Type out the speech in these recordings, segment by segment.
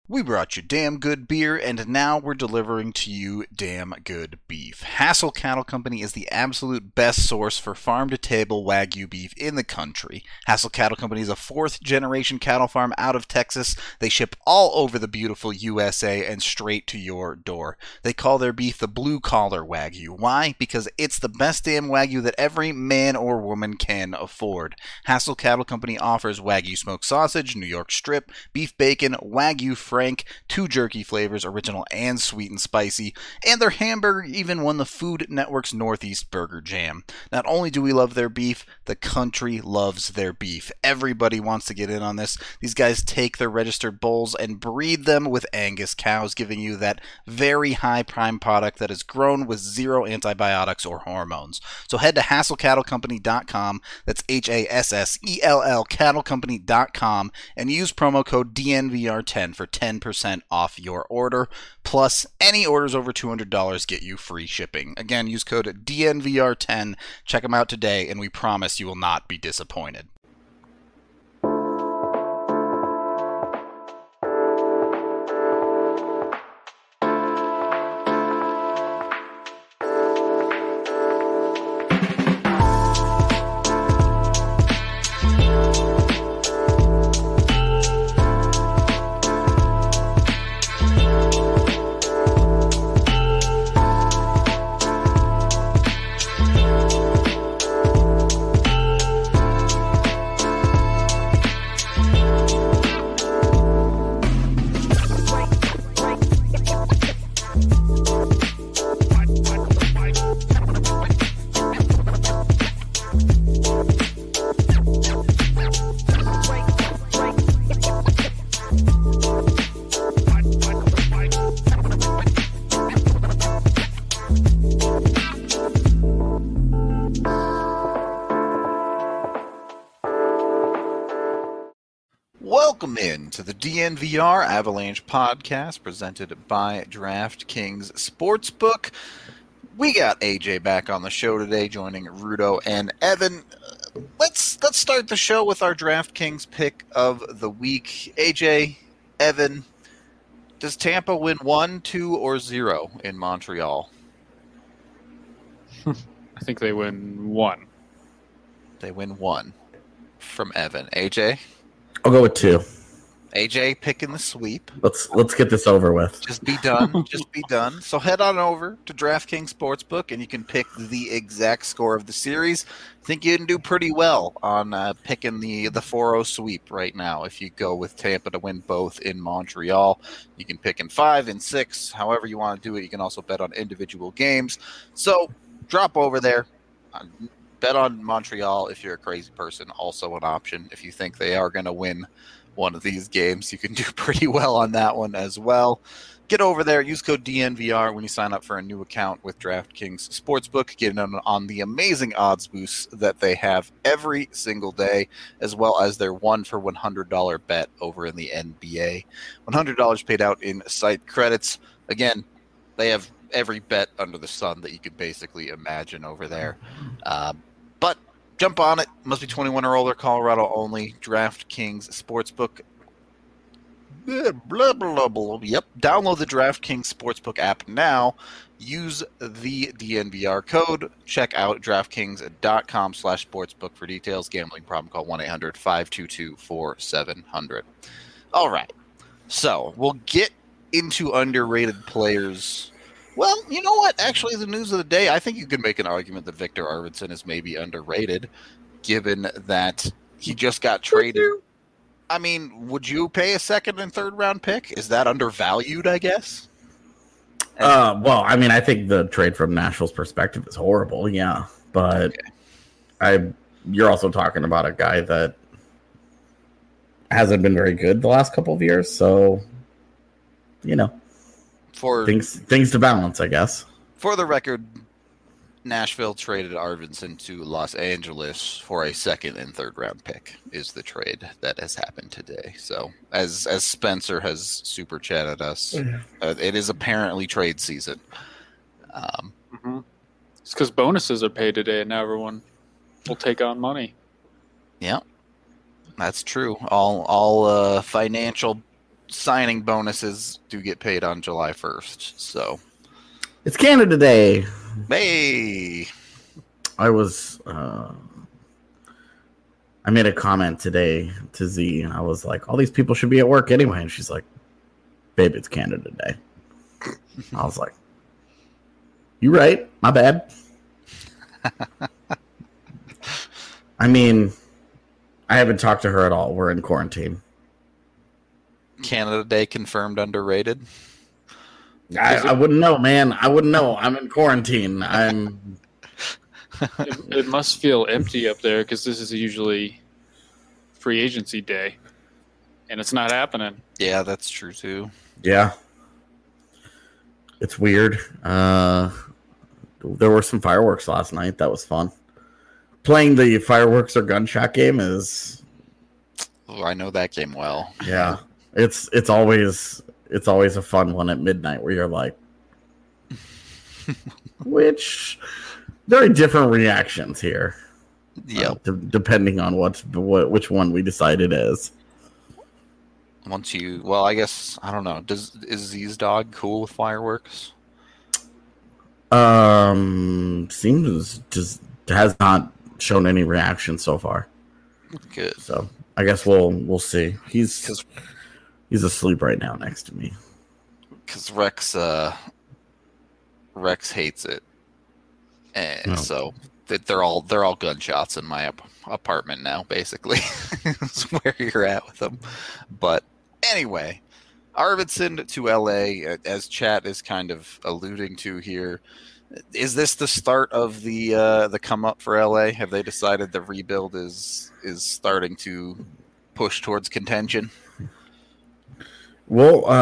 We brought you damn good beer, and now we're delivering to you damn good beef. Hassel Cattle Company is the absolute best source for farm-to-table Wagyu beef in the country. Hassel Cattle Company is a fourth-generation cattle farm out of Texas. They ship all over the beautiful USA and straight to your door. They call their beef the blue-collar Wagyu. Why? Because it's the best damn Wagyu that every man or woman can afford. Hassel Cattle Company offers Wagyu smoked sausage, New York strip, beef bacon, Wagyu Frank, 2 jerky flavors, original and sweet and spicy, and their hamburger even won the Food Network's Northeast Burger Jam. Not only do we love their beef, the country loves their beef. Everybody wants to get in on this. These guys take their registered bulls and breed them with Angus cows, giving you that very high prime product that is grown with zero antibiotics or hormones. So head to HassellCattleCompany.com, that's HASSELL cattlecompany.com, and use promo code DNVR10 for 10% off your order. Plus, any orders over $200 get you free shipping. Again, use code DNVR10. Check them out today, and we promise you will not be disappointed. Welcome in to the DNVR Avalanche podcast presented by DraftKings Sportsbook. We got AJ back on the show today, joining Rudo and Evan. Let's start the show with our DraftKings pick of the week. AJ, Evan, does Tampa win 1, 2, or 0 in Montreal? I think they win 1. They win 1 from Evan. AJ? I'll go with 2. AJ picking the sweep. Let's get this over with. Just be done. Just be done. So head on over to DraftKings Sportsbook, and you can pick the exact score of the series. I think you can do pretty well on picking the 4-0 sweep right now. If you go with Tampa to win both in Montreal, you can pick in 5 and 6, however you want to do it. You can also bet on individual games. So drop over there. Bet on Montreal if you're a crazy person. Also an option if you think they are going to win one of these games. You can do pretty well on that one as well. Get over there. Use code DNVR when you sign up for a new account with DraftKings Sportsbook. Get in on the amazing odds boosts that they have every single day, as well as their 1 for $100 bet over in the NBA. $100 paid out in site credits. Again, they have every bet under the sun that you could basically imagine over there. But jump on it. Must be 21 or older, Colorado only. DraftKings Sportsbook. Blah, blah, blah. Yep. Download the DraftKings Sportsbook app now. Use the DNVR code. Check out DraftKings.com/sportsbook for details. Gambling problem, call 1-800-522-4700. All right. So we'll get into underrated players. Well, you know what? Actually, the news of the day, I think you could make an argument that Victor Arvidsson is maybe underrated, given that he just got traded. I mean, would you pay a second and third round pick? Is that undervalued, I guess? Well, I mean, I think the trade from Nashville's perspective is horrible, yeah. But you're also talking about a guy that hasn't been very good the last couple of years, so, you know. For things to balance, I guess. For the record, Nashville traded Arvidsson to Los Angeles for a second and third round pick is the trade that has happened today. So as Spencer has super chatted us, it is apparently trade season. It's because bonuses are paid today and now everyone will take on money. Yeah, that's true. All financial signing bonuses do get paid on July 1st. So It's Canada Day. hey, I made a comment today to Z, and I was like, all these people should be at work anyway. And she's like, babe, it's Canada Day. I was like, you right. My bad. I mean, I haven't talked to her at all. We're in quarantine. Canada Day confirmed underrated. I wouldn't know, man. I wouldn't know. I'm in quarantine. It must feel empty up there because this is usually free agency day, and it's not happening. Yeah, that's true too. Yeah. It's weird. There were some fireworks last night. That was fun. Playing the fireworks or gunshot game is... Oh, I know that game well. Yeah. It's always a fun one at midnight where you're like... Which... Very different reactions here. Yep. Depending on which one we decide it is. Well, I guess I don't know. Is Z's dog cool with fireworks? Seems just has not shown any reaction so far. Good. So I guess we'll see. He's asleep right now next to me. Because Rex hates it. And so they're all gunshots in my apartment now, basically. That's where you're at with them. But anyway, Arvidsson to LA, as chat is kind of alluding to here. Is this the start of the come up for LA? Have they decided the rebuild is starting to push towards contention? Well,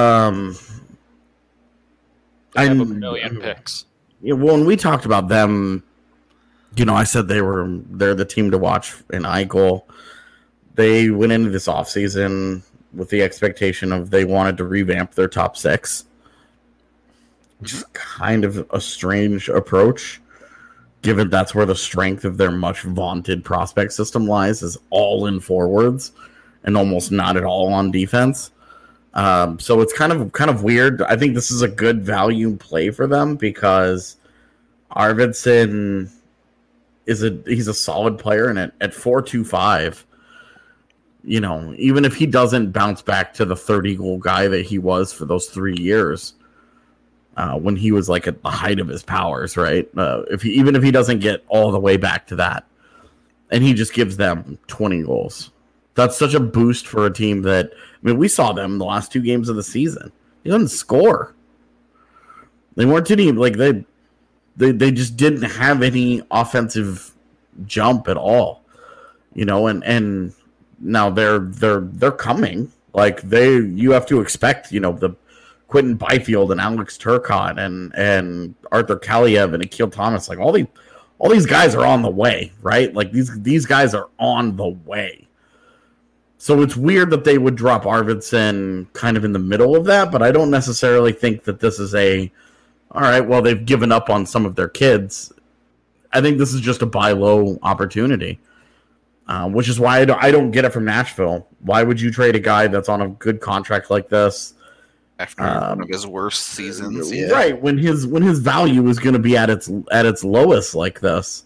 I have a million picks. Yeah, well, when we talked about them, I said they're the team to watch in Eichel. They went into this offseason with the expectation of they wanted to revamp their top six, which is kind of a strange approach, given that's where the strength of their much vaunted prospect system lies, is all in forwards and almost not at all on defense. So it's kind of weird. I think this is a good value play for them because Arvidsson he's a solid player, and at 4.25, even if he doesn't bounce back to the 30-goal guy that he was for those 3 years, when he was like at the height of his powers, right? Even if he doesn't get all the way back to that, and he just gives them 20 goals. That's such a boost for a team that, we saw them the last 2 games of the season. He doesn't score. They weren't any, they just didn't have any offensive jump at all, and now they're coming. You have to expect, the Quentin Byfield and Alex Turcotte and Arthur Kaliev and Akil Thomas, all these guys are on the way, right? These guys are on the way. So it's weird that they would drop Arvidsson kind of in the middle of that, but I don't necessarily think that this is all right, well, they've given up on some of their kids. I think this is just a buy low opportunity, which is why I don't get it from Nashville. Why would you trade a guy that's on a good contract like this? After one of his worst seasons, yeah. Right, when his value is going to be at its lowest like this.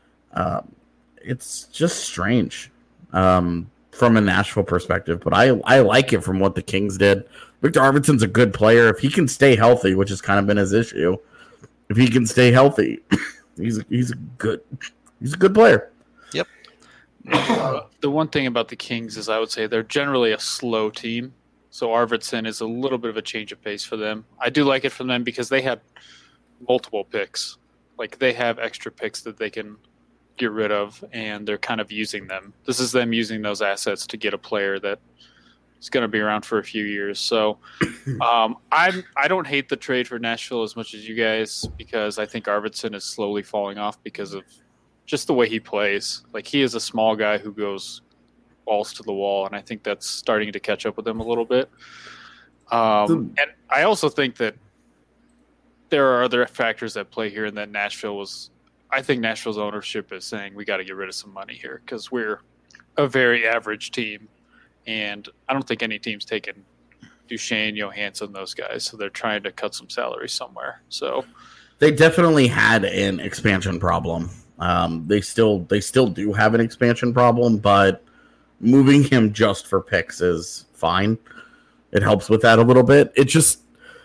It's just strange. From a Nashville perspective, but I like it from what the Kings did. Victor Arvidsson's a good player. If he can stay healthy, which has kind of been his issue, if he can stay healthy, he's a good player. Yep. The one thing about the Kings is I would say they're generally a slow team, so Arvidsson is a little bit of a change of pace for them. I do like it from them because they had multiple picks. They have extra picks that they can get rid of, and they're kind of using them. This is them using those assets to get a player that is going to be around for a few years. So I don't hate the trade for Nashville as much as you guys, because I think Arvidsson is slowly falling off because of just the way he plays. He is a small guy who goes balls to the wall, and I think that's starting to catch up with him a little bit. And I also think that there are other factors that play here, and that I think Nashville's ownership is saying we got to get rid of some money here because we're a very average team, and I don't think any team's taken Duchesne, Johansson, those guys. So they're trying to cut some salary somewhere. So they definitely had an expansion problem. They still do have an expansion problem, but moving him just for picks is fine. It helps with that a little bit. It just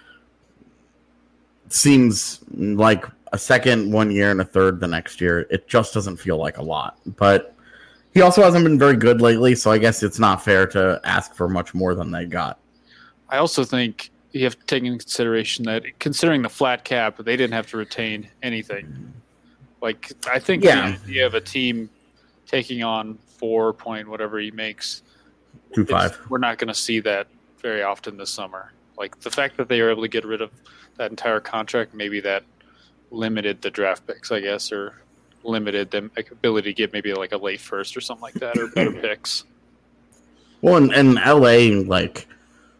seems like a second 1 year and a third the next year. It just doesn't feel like a lot. But he also hasn't been very good lately, so I guess it's not fair to ask for much more than they got. I also think you have to take into consideration that considering the flat cap, they didn't have to retain anything. Like, I think the idea of a team taking on 4 point whatever he makes, 2.5. We're not going to see that very often this summer. Like, the fact that they were able to get rid of that entire contract, maybe that limited the draft picks, I guess, or limited the ability to get maybe like a late first or something like that, or better picks. Well, in LA, like,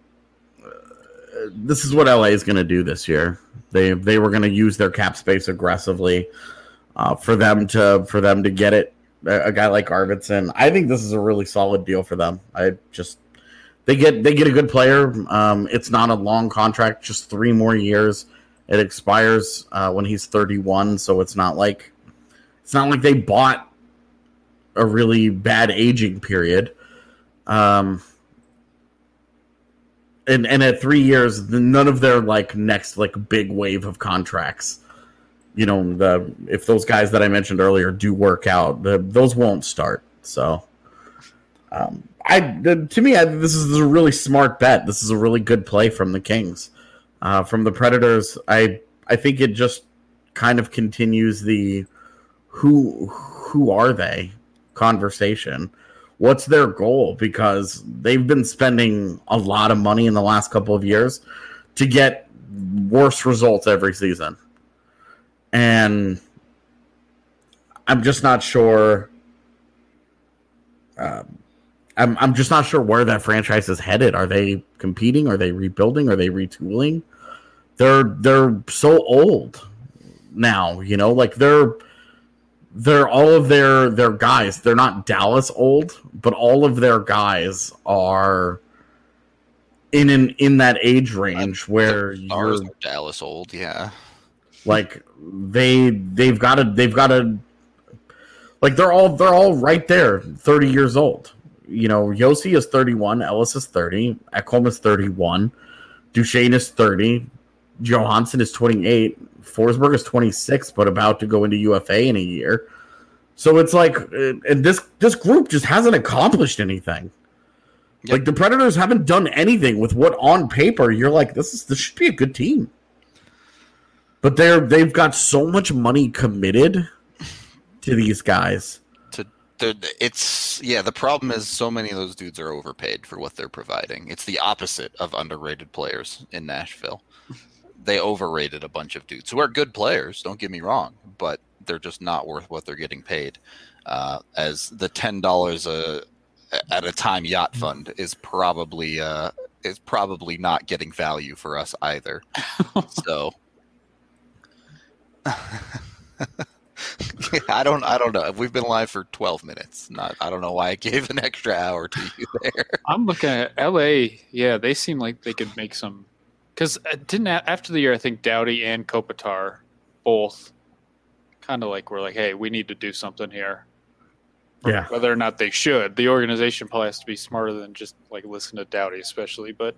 this is what LA is going to do this year. They were going to use their cap space aggressively for them to get it. A guy like Arvidsson, I think this is a really solid deal for them. They get a good player. It's not a long contract, just 3 more years. It expires when he's 31, so it's not like they bought a really bad aging period. And at 3 years, none of their next big wave of contracts, if those guys that I mentioned earlier do work out, those won't start. So, to me, this is a really smart bet. This is a really good play from the Kings. From the Predators, I think it just kind of continues the who are they conversation. What's their goal? Because they've been spending a lot of money in the last couple of years to get worse results every season. And I'm just not sure. I'm just not sure where that franchise is headed. Are they competing? Are they rebuilding? Are they retooling? They're so old now, they're all of their guys. They're not Dallas old, but all of their guys are in that age range where ours are Dallas old, yeah. Like they've got to like they're all right there, 30 years old. Yossi is 31, Ellis is 30, Ekholm is 31, Duchesne is 30, Johansson is 28, Forsberg is 26, but about to go into UFA in a year. So it's like, and this group just hasn't accomplished anything. Yep. Like the Predators haven't done anything with what on paper you're like, this should be a good team. But they've got so much money committed to these guys. The problem is so many of those dudes are overpaid for what they're providing. It's the opposite of underrated players in Nashville. They overrated a bunch of dudes who are good players, don't get me wrong, but they're just not worth what they're getting paid. As the $10 at a time yacht fund is probably not getting value for us either. So I don't know. We've been live for 12 minutes. I don't know why I gave an extra hour to you there. I'm looking at LA. Yeah, they seem like they could make some. Because after the year, I think Doughty and Kopitar both kind of were like, hey, we need to do something here. Yeah. Whether or not they should. The organization probably has to be smarter than just listen to Doughty, especially. But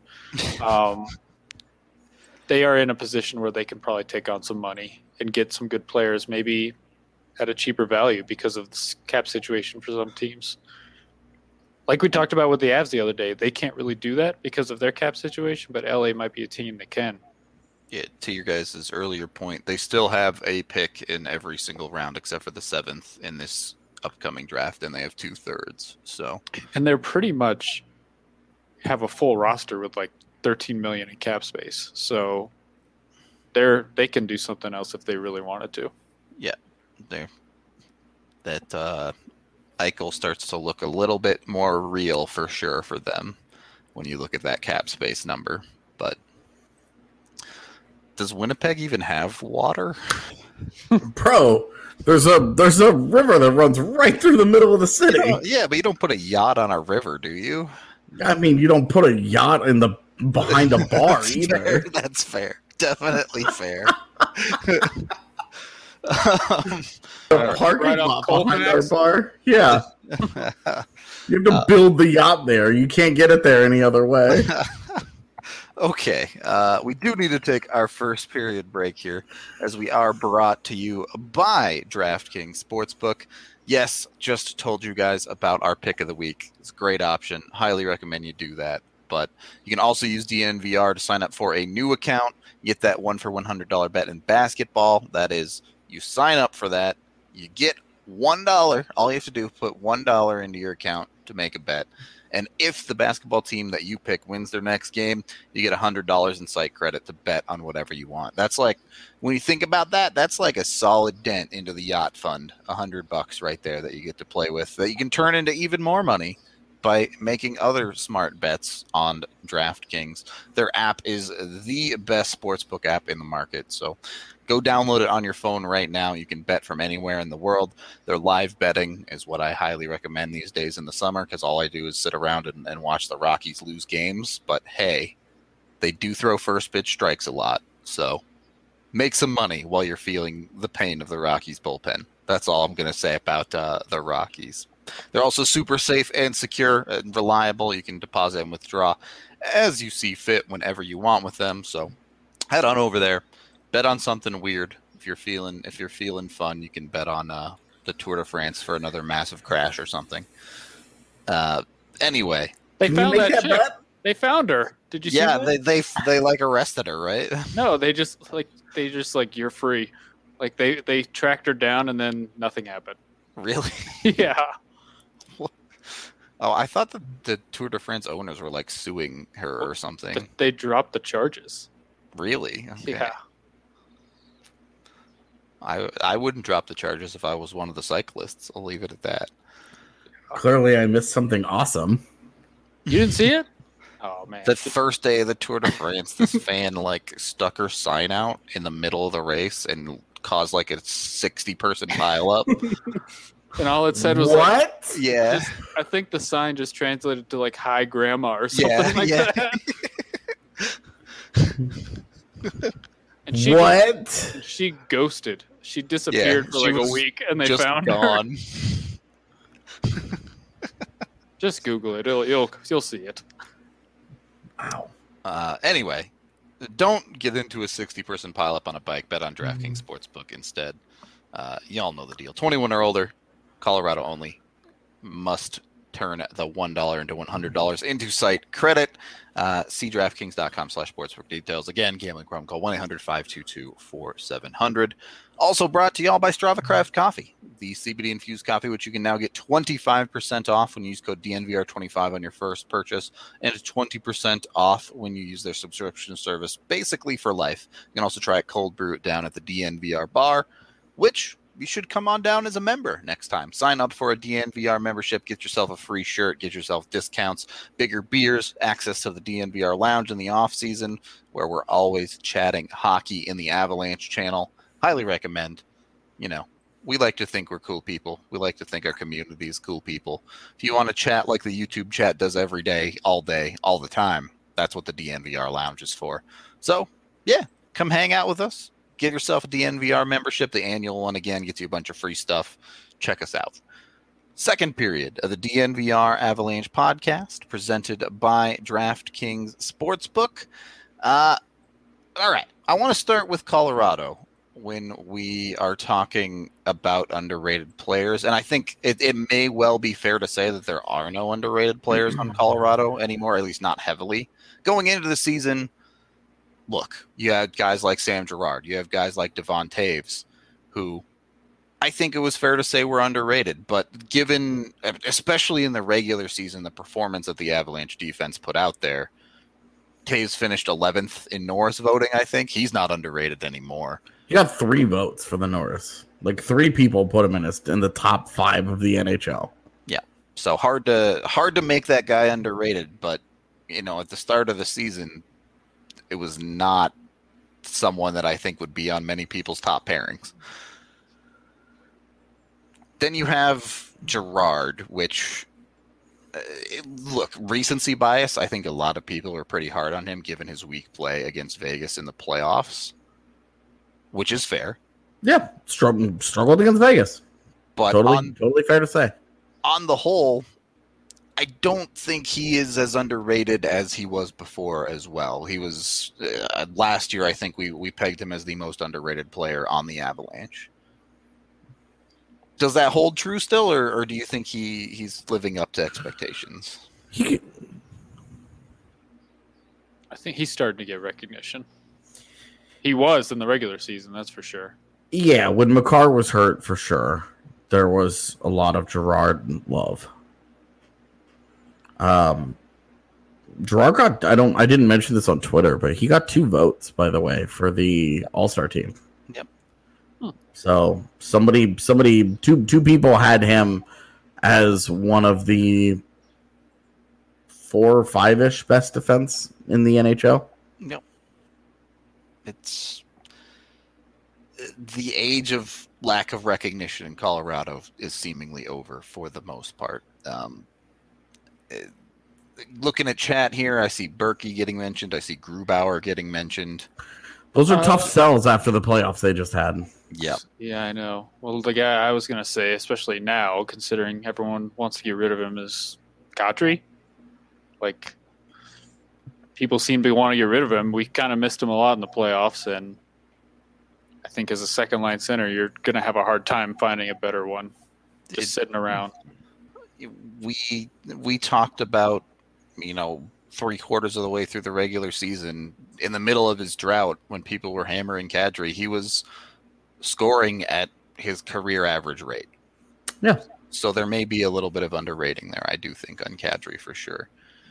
they are in a position where they can probably take on some money and get some good players, maybe at a cheaper value because of the cap situation for some teams. Like we talked about with the Avs the other day, they can't really do that because of their cap situation, but LA might be a team that can. Yeah, to your guys' earlier point, they still have a pick in every single round except for the 7th in this upcoming draft, and they have 2/3. So, and they're pretty much have a full roster with $13 million in cap space. So they can do something else if they really wanted to. Yeah, Eichel starts to look a little bit more real for sure for them when you look at that cap space number. But does Winnipeg even have water? Bro, there's a river that runs right through the middle of the city. Yeah, but you don't put a yacht on a river, do you? I mean, you don't put a yacht in the behind a bar That's either. fair. That's fair. Definitely fair. The parking right lot off Colfax? behind our bar. Yeah. You have to build the yacht there. You can't get it there any other way. Okay, we do need to take our first period break here, as we are brought to you by DraftKings Sportsbook. Yes, just told you guys about our pick of the week. It's a great option. Highly recommend you do that. But you can also use DNVR to sign up for a new account. You get that 1 for $100 bet in basketball. That is, you sign up for that. You get $1. All you have to do is put $1 into your account to make a bet. And if the basketball team that you pick wins their next game, you get $100 in site credit to bet on whatever you want. That's like, when you think about that, that's like a solid dent into the yacht fund. $100 right there that you get to play with, that you can turn into even more money by making other smart bets on DraftKings. Their app is the best sportsbook app in the market. So go download it on your phone right now. You can bet from anywhere in the world. Their live betting is what I highly recommend these days in the summer, because all I do is sit around and watch the Rockies lose games. But hey, they do throw first pitch strikes a lot. So make some money while you're feeling the pain of the Rockies bullpen. That's all I'm going to say about the Rockies. They're also super safe and secure and reliable. You can deposit and withdraw as you see fit whenever you want with them. So head on over there, bet on something weird. If you're feeling fun, you can bet on the Tour de France for another massive crash or something. Anyway, They Can found you make that that chick. bet? They found her. Did you see yeah, that? they like arrested her, right? No, they just you're free. Like they tracked her down and then nothing happened. Really? Yeah. Oh, I thought the Tour de France owners were like suing her or something. They dropped the charges. Really? Okay. Yeah. I wouldn't drop the charges if I was one of the cyclists. I'll leave it at that. Clearly, I missed something awesome. You didn't see it? Oh man. The first day of the Tour de France, this fan like stuck her sign out in the middle of the race and caused like a 60-person pileup. And all it said was like, What? Yeah. I think the sign just translated to like "Hi Grandma" or something Yeah, like yeah. that. And she ghosted. She disappeared Yeah, for she like was a week, and they Just found her. gone. Just Google it. You'll see it. Wow. Anyway, don't get into a 60-person pileup on a bike. Bet on DraftKings Sportsbook instead. Y'all know the deal. 21 or older, Colorado only. Must turn the $1 into $100 into site credit. See DraftKings.com/sportsbook details. Again, gambling problem. Call 1-800-522-4700. Also brought to y'all by Strava Craft Coffee, the CBD infused coffee, which you can now get 25% off when you use code DNVR25 on your first purchase, and 20% off when you use their subscription service, basically for life. You can also try it cold brew it down at the DNVR bar, which you should come on down as a member next time. Sign up for a DNVR membership, get yourself a free shirt, get yourself discounts, bigger beers, access to the DNVR lounge in the off season, where we're always chatting hockey in the Avalanche channel. Highly recommend. You know, we like to think we're cool people. We like to think our community is cool people. If you want to chat like the YouTube chat does every day, all the time, that's what the DNVR lounge is for. So, yeah, come hang out with us. Get yourself a DNVR membership. The annual one, again, gets you a bunch of free stuff. Check us out. Second period of the DNVR Avalanche podcast, presented by DraftKings Sportsbook. All right. I want to start with Colorado when we are talking about underrated players. And I think it may well be fair to say that there are no underrated players on Colorado anymore, at least not heavily. Going into the season, look, you had guys like Sam Girard. You have guys like Devon Taves, who I think it was fair to say were underrated. But given, especially in the regular season, the performance that the Avalanche defense put out there, Taves finished 11th in Norris voting, I think. He's not underrated anymore. He got 3 votes for the Norris. Like 3 people put him in the top 5 of the NHL. Yeah. So hard to make that guy underrated, but you know, at the start of the season, it was not someone that I think would be on many people's top pairings. Then you have Girard, which Look, recency bias. I think a lot of people are pretty hard on him given his weak play against Vegas in the playoffs, which is fair. Yeah, struggled against Vegas. But totally fair to say. On the whole, I don't think he is as underrated as he was before as well. He was last year. I think we pegged him as the most underrated player on the Avalanche. Does that hold true still, or do you think he's living up to expectations? I think he's starting to get recognition. He was in the regular season, that's for sure. Yeah, when Makar was hurt, for sure, there was a lot of Gerard love. Gerard got, I didn't mention this on Twitter, but he got 2 votes, by the way, for the All-Star team. Yep. So two people had him as one of the 4 or 5-ish best defense in the NHL. Yep. It's the age of lack of recognition in Colorado is seemingly over for the most part. Looking at chat here, I see Berkey getting mentioned. I see Grubauer getting mentioned. Those are tough sells after the playoffs they just had. Yep. Yeah, I know. Well, the guy I was going to say, especially now, considering everyone wants to get rid of him, is Kadri. Like, people seem to want to get rid of him. We kind of missed him a lot in the playoffs, and I think as a second-line center, you're going to have a hard time finding a better one just sitting around. We talked about, 3/4 of the way through the regular season, in the middle of his drought, when people were hammering Kadri, he was scoring at his career average rate. Yeah. So there may be a little bit of underrating there, I do think, on Kadri for sure.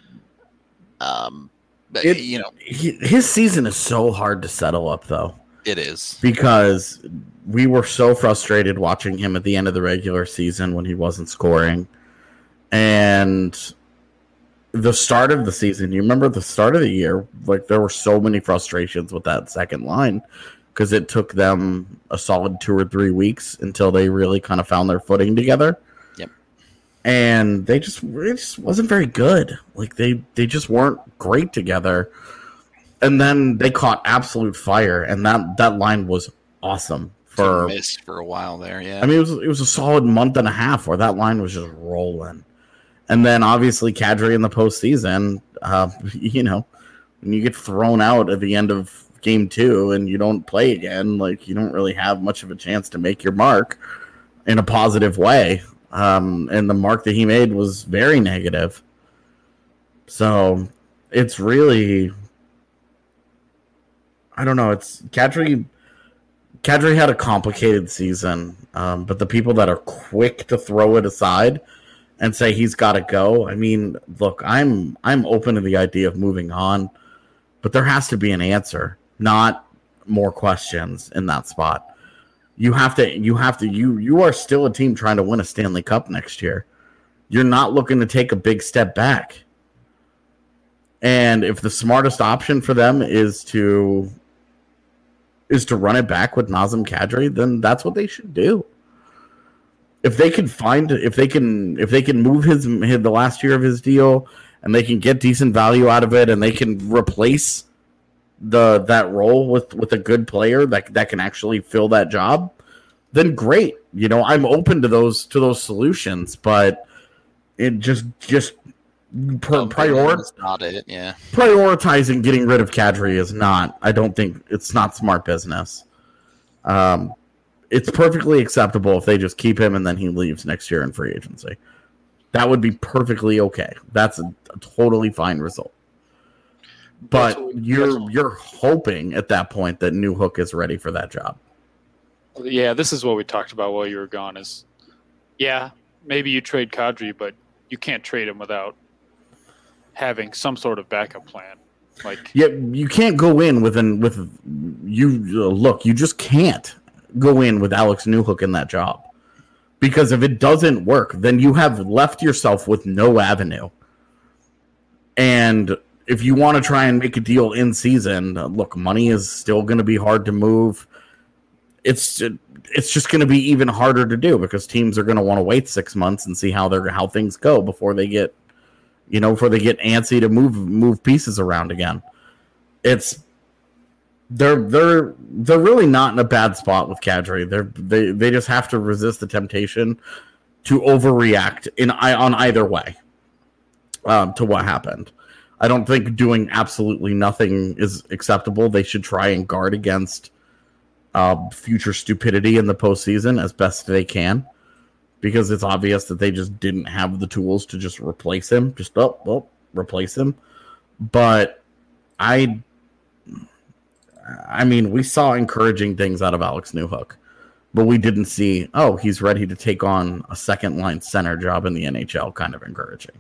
But, his season is so hard to settle up, though. It is. Because we were so frustrated watching him at the end of the regular season when he wasn't scoring. And the start of the season, you remember the start of the year, like there were so many frustrations with that second line because it took them a solid 2 or 3 weeks until they really kind of found their footing together. Yep. And it just wasn't very good. Like they just weren't great together. And then they caught absolute fire, and that line was awesome missed for a while there. Yeah. I mean, it was a solid month and a half where that line was just rolling. And then obviously Kadri in the postseason, when you get thrown out at the end of game 2 and you don't play again, like you don't really have much of a chance to make your mark in a positive way. And the mark that he made was very negative. So it's really, I don't know. It's Kadri had a complicated season, but the people that are quick to throw it aside and say he's got to go. I mean, look, I'm open to the idea of moving on, but there has to be an answer, not more questions in that spot. You are still a team trying to win a Stanley Cup next year. You're not looking to take a big step back. And if the smartest option for them is to run it back with Nazem Kadri, then that's what they should do. If they can move the last year of his deal and they can get decent value out of it and they can replace that role with a good player that can actually fill that job, then great. I'm open to those solutions, but it just not it, yeah. Prioritizing getting rid of Kadri is not. I don't think it's not smart business. It's perfectly acceptable if they just keep him and then he leaves next year in free agency. That would be perfectly okay. That's a totally fine result. But you're hoping at that point that Newhook is ready for that job. Yeah, this is what we talked about while you were gone. Maybe you trade Kadri, but you can't trade him without having some sort of backup plan. You can't go in you just can't go in with Alex Newhook in that job. Because if it doesn't work, then you have left yourself with no avenue. And if you want to try and make a deal in season, look, money is still going to be hard to move. It's just going to be even harder to do because teams are going to want to wait 6 months and see how things go before they get before they get antsy to move pieces around again. They're really not in a bad spot with Kadri. They just have to resist the temptation to overreact on either way to what happened. I don't think doing absolutely nothing is acceptable. They should try and guard against future stupidity in the postseason as best they can, because it's obvious that they just didn't have the tools to just replace him. Replace him. But I mean, we saw encouraging things out of Alex Newhook, but we didn't see, he's ready to take on a second-line center job in the NHL kind of encouraging.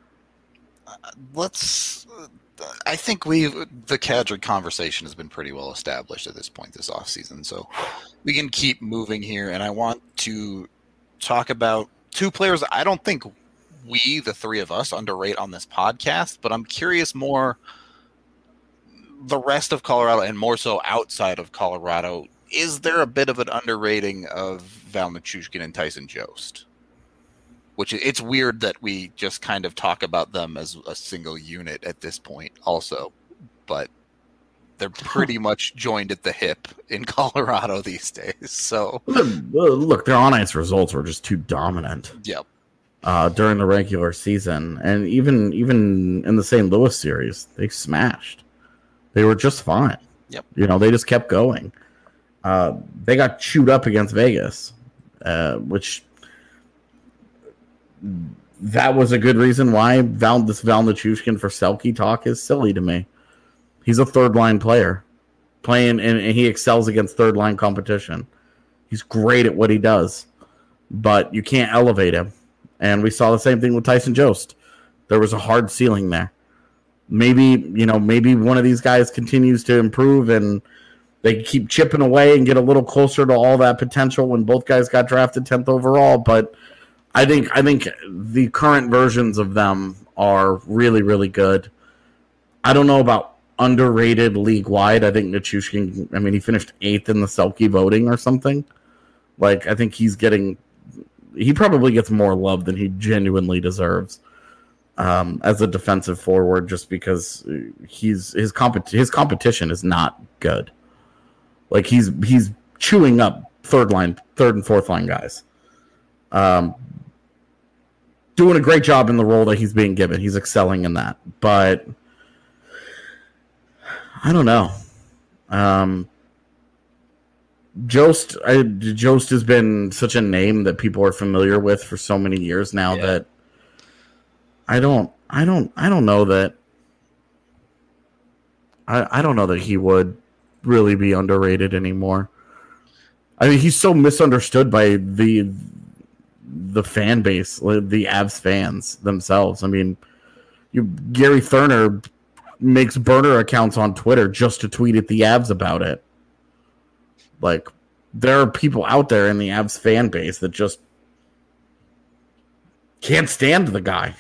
I think the Kadri conversation has been pretty well established at this point this offseason, so we can keep moving here, and I want to talk about two players I don't think we, the three of us, underrate on this podcast, but I'm curious more the rest of Colorado and more so outside of Colorado. Is there a bit of an underrating of Val Nichushkin and Tyson Jost? Which it's weird that we just kind of talk about them as a single unit at this point also, but they're pretty much joined at the hip in Colorado these days. So look, their on-ice results were just too dominant. Yep. During the regular season, and even in the St. Louis series, they smashed. They were just fine. Yep. They just kept going. They got chewed up against Vegas, which that was a good reason why Val Nichushkin for Selke talk is silly to me. He's a third-line player playing, and he excels against third-line competition. He's great at what he does, but you can't elevate him. And we saw the same thing with Tyson Jost. There was a hard ceiling there. Maybe one of these guys continues to improve and they keep chipping away and get a little closer to all that potential when both guys got drafted 10th overall. But I think the current versions of them are really, really good. I don't know about underrated league-wide. I think Nichushkin, he finished 8th in the Selke voting or something. Like, I think he probably gets more love than he genuinely deserves as a defensive forward, just because his competition is not good. Like, he's chewing up third and fourth line guys. Doing a great job in the role that he's being given. He's excelling in that. But I don't know. Jost has been such a name that people are familiar with for so many years now that I don't know that I don't know that he would really be underrated anymore. He's so misunderstood by the fan base, the Avs fans themselves. Gary Thurner makes burner accounts on Twitter just to tweet at the Avs about it. Like, there are people out there in the Avs fan base that just can't stand the guy.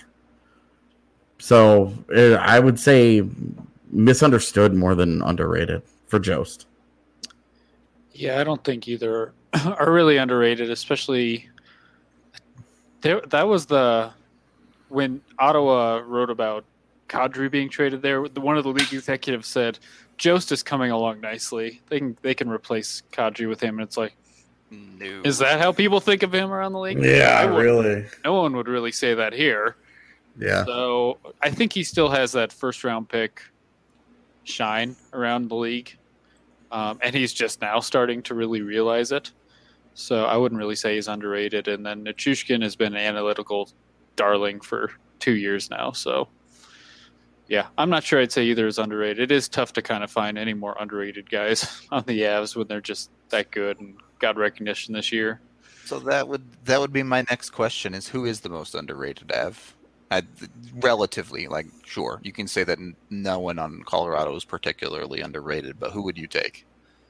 So I would say misunderstood more than underrated for Jost. Yeah, I don't think either are really underrated, especially that was when Ottawa wrote about Kadri being traded there. One of the league executives said, Jost is coming along nicely. They can replace Kadri with him. And it's like, no. Is that how people think of him around the league? Yeah, really. No one would really say that here. Yeah. So I think he still has that first round pick shine around the league. And he's just now starting to really realize it. So I wouldn't really say he's underrated. And then Nichushkin has been an analytical darling for 2 years now. So yeah, I'm not sure I'd say either is underrated. It is tough to kind of find any more underrated guys on the Avs when they're just that good and got recognition this year. So that would be my next question: is who is the most underrated Av? Relatively, sure, you can say that no one on Colorado is particularly underrated, but who would you take?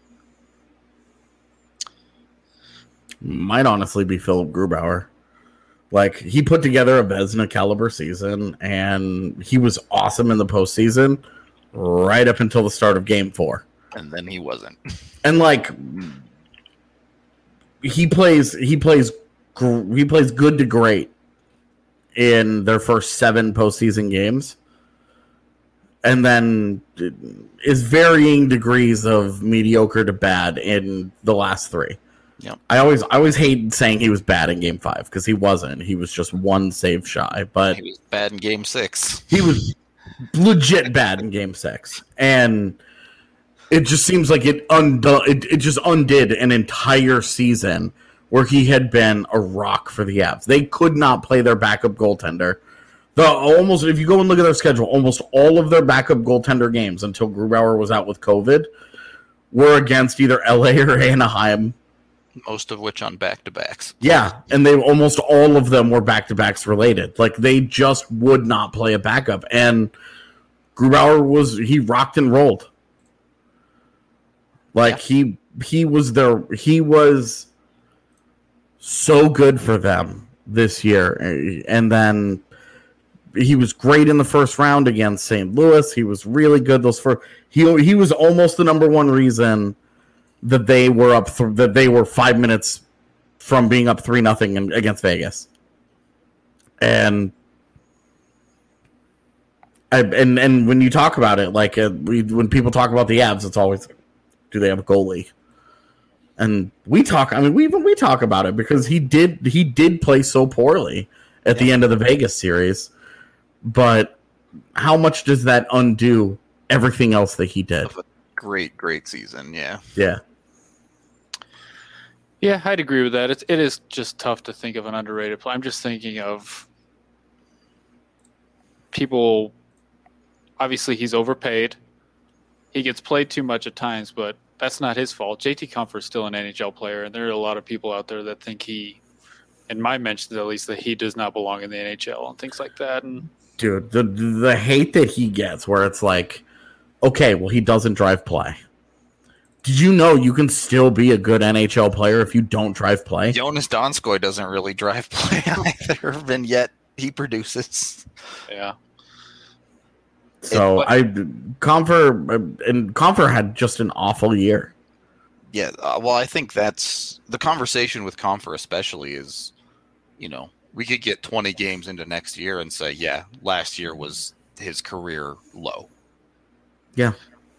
Might honestly be Philip Grubauer. He put together a Vezina caliber season, and he was awesome in the postseason right up until the start of Game 4. And then he wasn't. And he plays good to great in their first 7 postseason games, and then is varying degrees of mediocre to bad in the last 3. Yep. I always hate saying he was bad in Game 5 because he wasn't. He was just 1 save shy, but He was bad in Game 6. he was legit bad in Game 6, and it just seems like it just undid an entire season where he had been a rock for the Avs. They could not play their backup goaltender. If you go and look at their schedule, almost all of their backup goaltender games until Grubauer was out with COVID were against either LA or Anaheim. Most of which on back-to-backs. Yeah, and almost all of them were back-to-backs related. Like, they just would not play a backup. And Grubauer he rocked and rolled. Like, he was so good for them this year. And then he was great in the first round against St. Louis. He was really good he was almost the number one reason that they were that they were 5 minutes from being up 3-0 against Vegas. And when you talk about it, like when people talk about the Avs, it's always, do they have a goalie? And we talk about it because he did play so poorly at the end of the Vegas series. But how much does that undo everything else that he did? Great season, yeah. Yeah. Yeah, I'd agree with that. It is just tough to think of an underrated player. I'm just thinking of people. Obviously, he's overpaid. He gets played too much at times, but that's not his fault. JT Comfort's still an NHL player, and there are a lot of people out there that think in my mentions at least, that he does not belong in the NHL and things like that. And dude, the hate that he gets, where it's like, okay, well, he doesn't drive play. Did you know you can still be a good NHL player if you don't drive play? Jonas Donskoy doesn't really drive play either, and yet he produces. Yeah. So Compher had just an awful year. Yeah, well, I think that's the conversation with Compher, especially is, we could get 20 games into next year and say, yeah, last year was his career low. Yeah,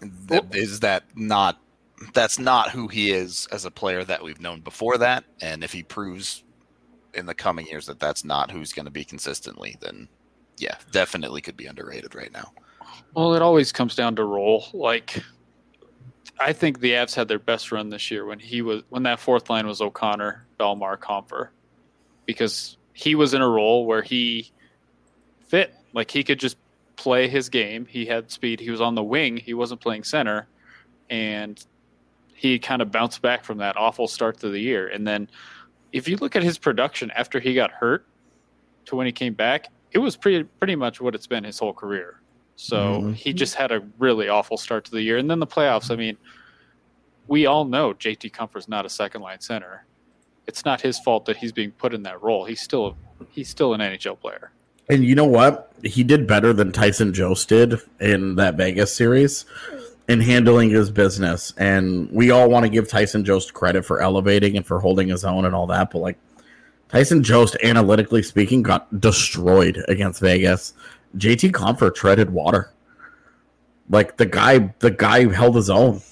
That's not who he is as a player that we've known before that. And if he proves in the coming years that that's not who's going to be consistently, then yeah, definitely could be underrated right now. Well, it always comes down to role. Like, I think the Avs had their best run this year when that fourth line was O'Connor, Belmar, Compher, because he was in a role where he fit. Like, he could just play his game. He had speed. He was on the wing. He wasn't playing center, and he kind of bounced back from that awful start to the year. And then if you look at his production after he got hurt to when he came back, it was pretty much what it's been his whole career. So he just had a really awful start to the year. And then the playoffs, I mean, we all know JT Compher's not a second-line center. It's not his fault that he's being put in that role. He's still an NHL player. And you know what? He did better than Tyson Jost did in that Vegas series in handling his business. And we all want to give Tyson Jost credit for elevating and for holding his own and all that. But, like, Tyson Jost, analytically speaking, got destroyed against Vegas. JT Compher treaded water. Like, the guy held his own.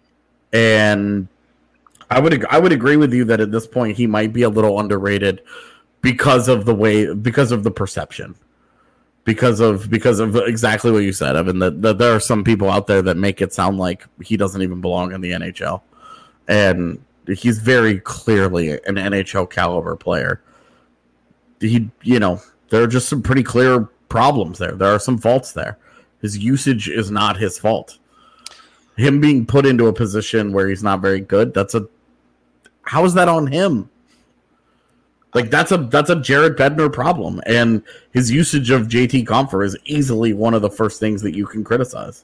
And I would agree with you that at this point he might be a little underrated because of the perception. Because of exactly what you said, Evan, that there are some people out there that make it sound like he doesn't even belong in the NHL. And he's very clearly an NHL caliber player. There are just some pretty clear problems there. There are some faults there. His usage is not his fault. Him being put into a position where he's not very good, how is that on him? Like, that's a Jared Bednar problem, and his usage of JT Compher is easily one of the first things that you can criticize.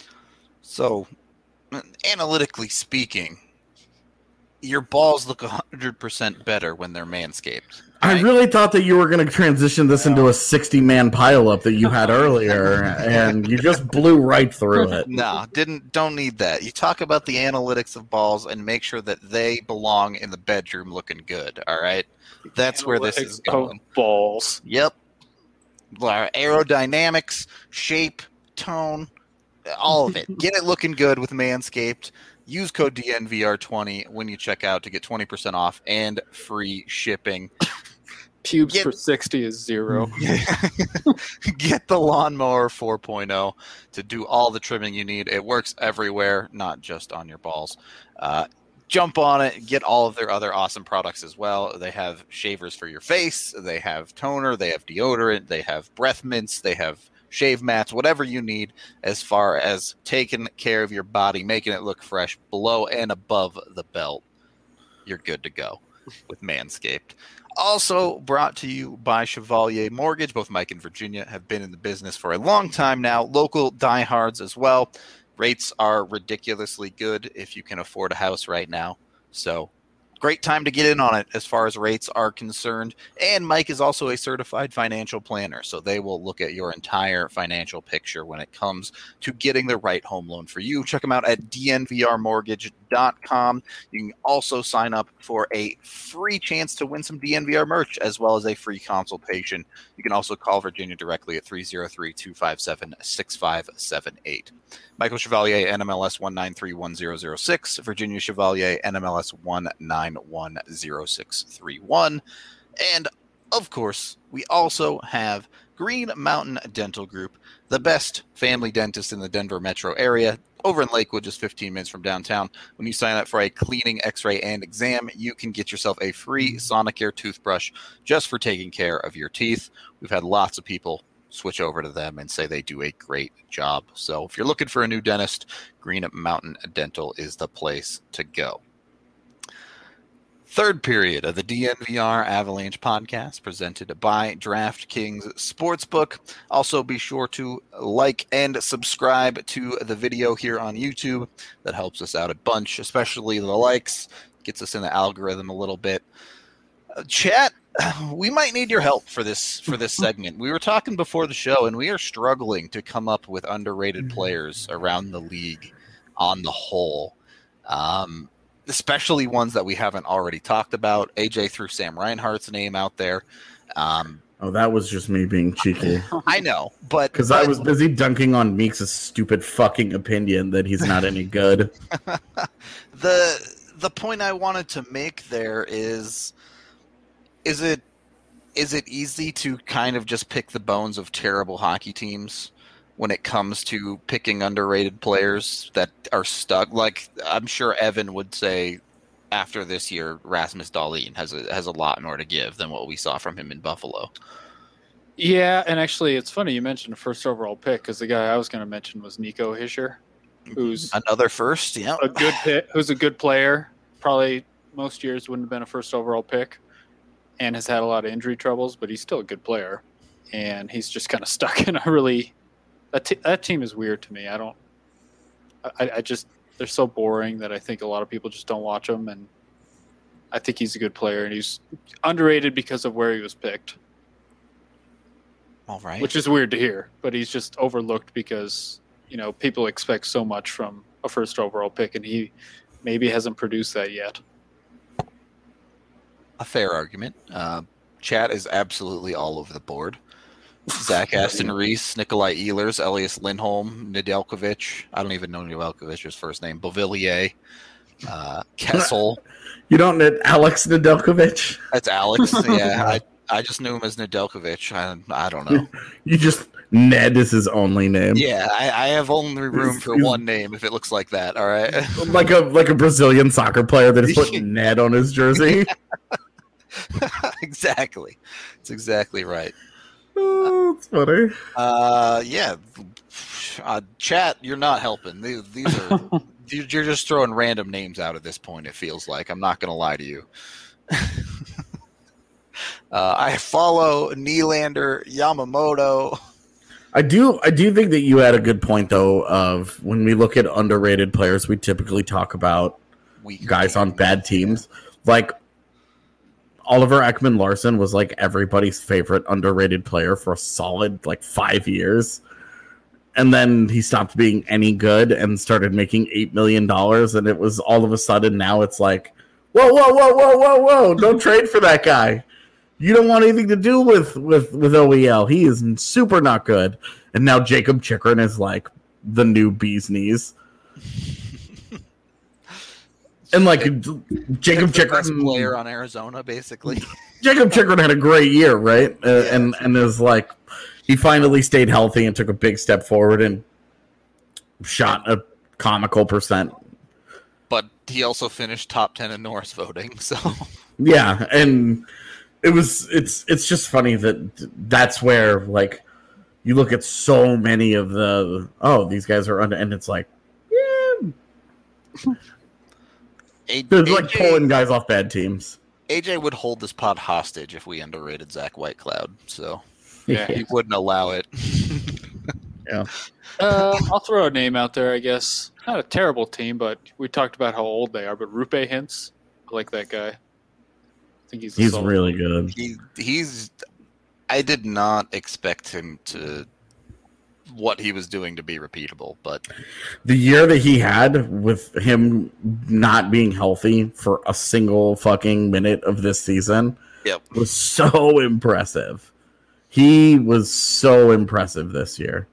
So, analytically speaking, your balls look 100% better when they're manscaped. I really thought that you were going to transition this into a 60-man pileup that you had earlier, and you just blew right through it. No, don't need that. You talk about the analytics of balls and make sure that they belong in the bedroom looking good, all right? That's where this is going. Balls. Yep. Aerodynamics, shape, tone, all of it. Get it looking good with Manscaped. Use code DNVR20 when you check out to get 20% off and free shipping. Pubes for 60 is 0. Get the Lawnmower 4.0 to do all the trimming you need. It works everywhere, not just on your balls. Jump on it. Get all of their other awesome products as well. They have shavers for your face. They have toner. They have deodorant. They have breath mints. They have shave mats, whatever you need as far as taking care of your body, making it look fresh below and above the belt. You're good to go with Manscaped. Also brought to you by Chevalier Mortgage. Both Mike and Virginia have been in the business for a long time now. Local diehards as well. Rates are ridiculously good if you can afford a house right now. So great time to get in on it as far as rates are concerned. And Mike is also a certified financial planner, so they will look at your entire financial picture when it comes to getting the right home loan for you. Check them out at dnvrmortgage.com. You can also sign up for a free chance to win some DNVR merch as well as a free consultation. You can also call Virginia directly at 303-257-6578. Michael Chevalier, NMLS 1931006. Virginia Chevalier, NMLS 1910631. And, of course, we also have Green Mountain Dental Group, the best family dentist in the Denver metro area, over in Lakewood, just 15 minutes from downtown. When you sign up for a cleaning, x-ray, and exam, you can get yourself a free Sonicare toothbrush just for taking care of your teeth. We've had lots of people switch over to them and say they do a great job. So if you're looking for a new dentist, Green Mountain Dental is the place to go. Third period of the DNVR Avalanche podcast presented by DraftKings Sportsbook. Also be sure to like and subscribe to the video here on YouTube. That helps us out a bunch, especially the likes. Gets us in the algorithm a little bit. Chat, we might need your help for this segment. We were talking before the show, and we are struggling to come up with underrated players around the league on the whole, especially ones that we haven't already talked about. AJ threw Sam Reinhart's name out there. That was just me being cheeky. I know, but because I was busy dunking on Meeks' stupid fucking opinion that he's not any good. The point I wanted to make there is it easy to kind of just pick the bones of terrible hockey teams when it comes to picking underrated players that are stuck? Like, I'm sure Evan would say after this year, Rasmus Dahlin has a lot more to give than what we saw from him in Buffalo. Yeah, and actually, it's funny you mentioned a first overall pick because the guy I was going to mention was Nico Hischier, who's another first, yeah, a good pick, who's a good player. Probably most years wouldn't have been a first overall pick, and has had a lot of injury troubles, but he's still a good player, and he's just kind of stuck in a really that team is weird to me. I just they're so boring that I think a lot of people just don't watch them, and I think he's a good player, and he's underrated because of where he was picked. All right. Which is weird to hear, but he's just overlooked because, people expect so much from a first overall pick, and he maybe hasn't produced that yet. A fair argument. Chat is absolutely all over the board. Zach Aston Reese, Nikolai Ehlers, Elias Lindholm, Nedeljkovic. I don't even know Nedeljkovic's first name. Beauvillier, Kessel. You don't know Alex Nedeljkovic? That's Alex. Yeah, I just knew him as Nedeljkovic. I don't know. You just Ned is his only name. Yeah, I have only room for one name if it looks like that. All right, like a Brazilian soccer player that is putting Ned on his jersey. Exactly, it's exactly right. Oh, that's funny. Chat, you're not helping. These are you're just throwing random names out at this point. It feels like I'm not going to lie to you. I follow Nylander, Yamamoto. I do think that you had a good point though. Of when we look at underrated players, we typically talk about guys on bad teams, like. Oliver Ekman-Larsson was like everybody's favorite underrated player for a solid 5 years. And then he stopped being any good and started making $8 million. And it was all of a sudden now it's like, whoa, don't trade for that guy. You don't want anything to do with OEL. He is super not good. And now Jacob Chikrin is like the new bee's knees. And like Jacob Chikrin, player on Arizona, basically. Jacob Chikrin had a great year, right? And is like he finally stayed healthy and took a big step forward and shot a comical percent. But he also finished top 10 in Norris voting, so yeah, and it's just funny that's where like you look at so many of these guys are under, and it's like they're like pulling guys off bad teams. AJ would hold this pod hostage if we underrated Zach Whitecloud, so Yeah. he wouldn't allow it. Yeah. I'll throw a name out there, I guess. Not a terrible team, but we talked about how old they are. But Rupe Hintz, I like that guy. I think he's solid. Really good. He's. I did not expect him to what he was doing to be repeatable, but the year that he had with him not being healthy for a single fucking minute of this season was so impressive. He was so impressive this year.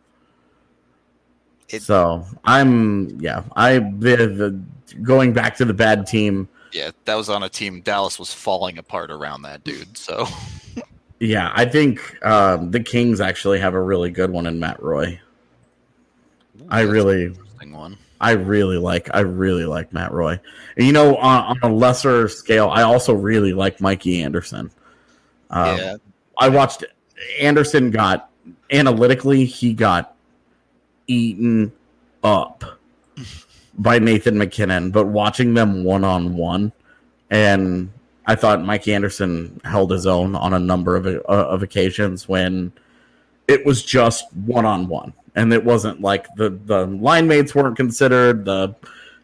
So going back to the bad team. Yeah, that was on a team. Dallas was falling apart around that dude. So yeah, I think the Kings actually have a really good one in Matt Roy. I really like Matt Roy. And, you know, on a lesser scale, I also really like Mikey Anderson. I watched Anderson got eaten up by Nathan McKinnon, but watching them one-on-one, and I thought Mikey Anderson held his own on a number of occasions when it was just one-on-one, and it wasn't like the line mates weren't considered, the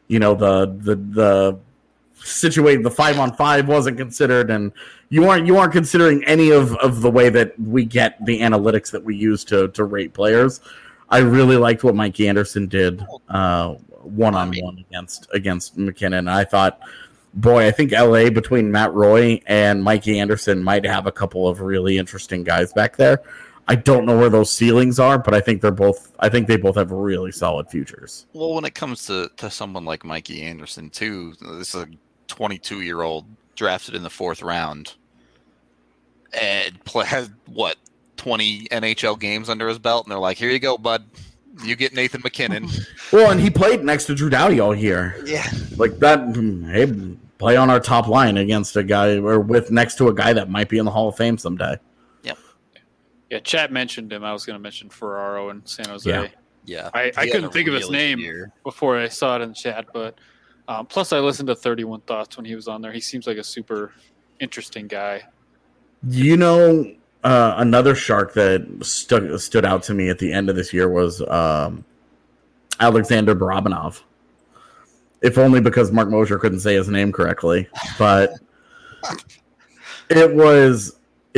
5-on-5 wasn't considered, and you aren't considering any of the way that we get the analytics that we use to rate players. I really liked what Mikey Anderson did one-on-one against McKinnon. I thought, boy, I think LA between Matt Roy and Mikey Anderson might have a couple of really interesting guys back there. I don't know where those ceilings are, but I think they both have really solid futures. Well, when it comes to someone like Mikey Anderson too, this is a 22-year-old drafted in the 4th round and has 20 NHL games under his belt, and they're like, here you go, bud. You get Nathan McKinnon. Well, and he played next to Drew Doughty all year. Yeah. Like that, hey, play on our top line against a guy or next to a guy that might be in the Hall of Fame someday. Yep. Yeah, Chat mentioned him. I was going to mention Ferraro in San Jose. Yeah. I couldn't think of his name before I saw it in chat, but plus I listened to 31 Thoughts when he was on there. He seems like a super interesting guy. You know, another Shark that stood out to me at the end of this year was Alexander Barabanov. If only because Mark Mosher couldn't say his name correctly, but he was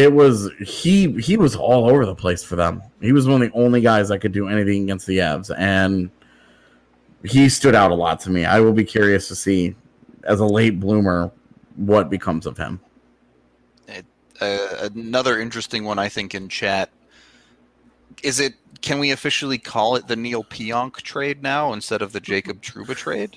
all over the place for them. He was one of the only guys that could do anything against the Avs, and he stood out a lot to me. I will be curious to see, as a late bloomer, what becomes of him. Another interesting one, I think, in chat. Can we officially call it the Neil Pionk trade now instead of the Jacob Trouba trade?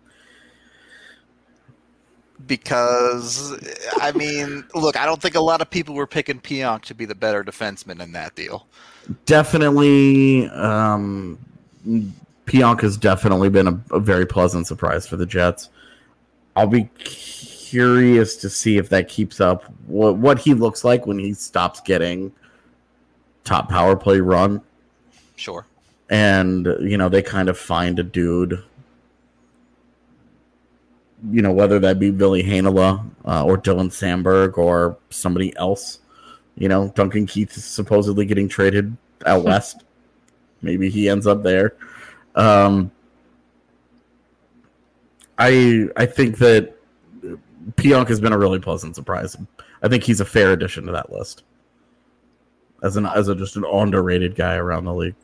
Because, I mean, look, I don't think a lot of people were picking Pionk to be the better defenseman in that deal. Definitely, Pionk has definitely been a very pleasant surprise for the Jets. I'll be curious to see if that keeps up. What he looks like when he stops getting top power play run. Sure. And, they kind of find a dude, whether that be Billy Hainala or Dylan Sandberg or somebody else. Duncan Keith is supposedly getting traded out west. Maybe he ends up there. I think that Pionk has been a really pleasant surprise. I think he's a fair addition to that list as just an underrated guy around the league.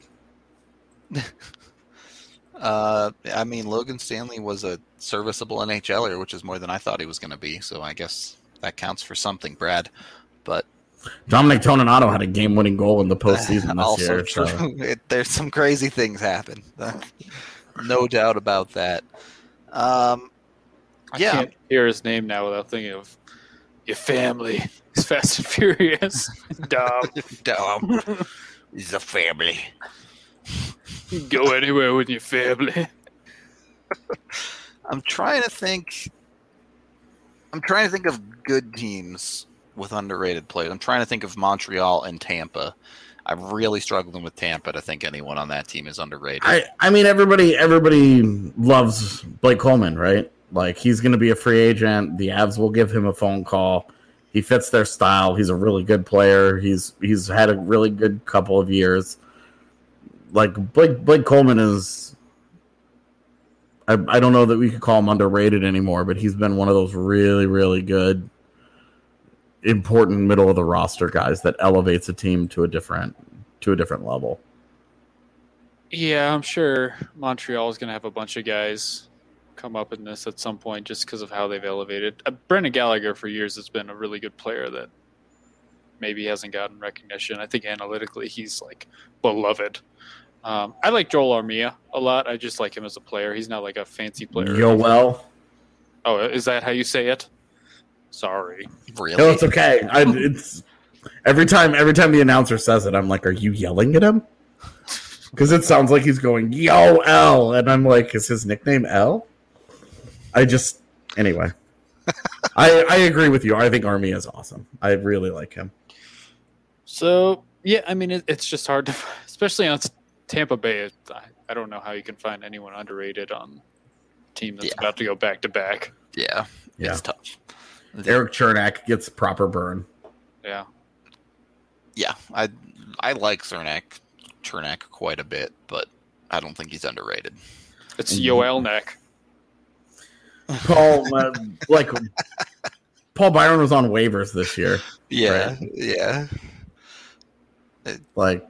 I mean, Logan Stanley was a serviceable NHLer, which is more than I thought he was going to be. So I guess that counts for something, Brad. but Dominic Toninato had a game-winning goal in the postseason this also year. true. So. There's some crazy things happen. No doubt about that. I can't hear his name now without thinking of your family. It's Fast and Furious. Dom. He's a family. You can go anywhere with your family. I'm trying to think of good teams with underrated players. I'm trying to think of Montreal and Tampa. I'm really struggling with Tampa to think anyone on that team is underrated. I mean, everybody loves Blake Coleman, right? Like, he's going to be a free agent. The Avs will give him a phone call. He fits their style. He's a really good player. He's had a really good couple of years. Like, Blake Coleman is... I don't know that we could call him underrated anymore, but he's been one of those really, really good, important middle of the roster guys that elevates a team to a different level. Yeah, I'm sure Montreal is going to have a bunch of guys come up in this at some point just because of how they've elevated. Brendan Gallagher for years has been a really good player that maybe hasn't gotten recognition. I think analytically he's like beloved. I like Joel Armia a lot. I just like him as a player. He's not like a fancy player. Yoel. Oh, is that how you say it? Sorry. Really? No, it's okay. It's every time the announcer says it, I'm like, "Are you yelling at him?" Because it sounds like he's going "Yo L," and I'm like, "Is his nickname L?" Anyway. I agree with you. I think Armia is awesome. I really like him. So yeah, I mean it's just hard to, especially on Tampa Bay. I don't know how you can find anyone underrated on a team that's about to go back to back. Yeah, it's tough. Eric Chernak gets proper burn. Yeah. Yeah, I like Chernak quite a bit, but I don't think he's underrated. It's Yoel Neck. Paul Byron was on waivers this year. Yeah, right? Yeah. Like,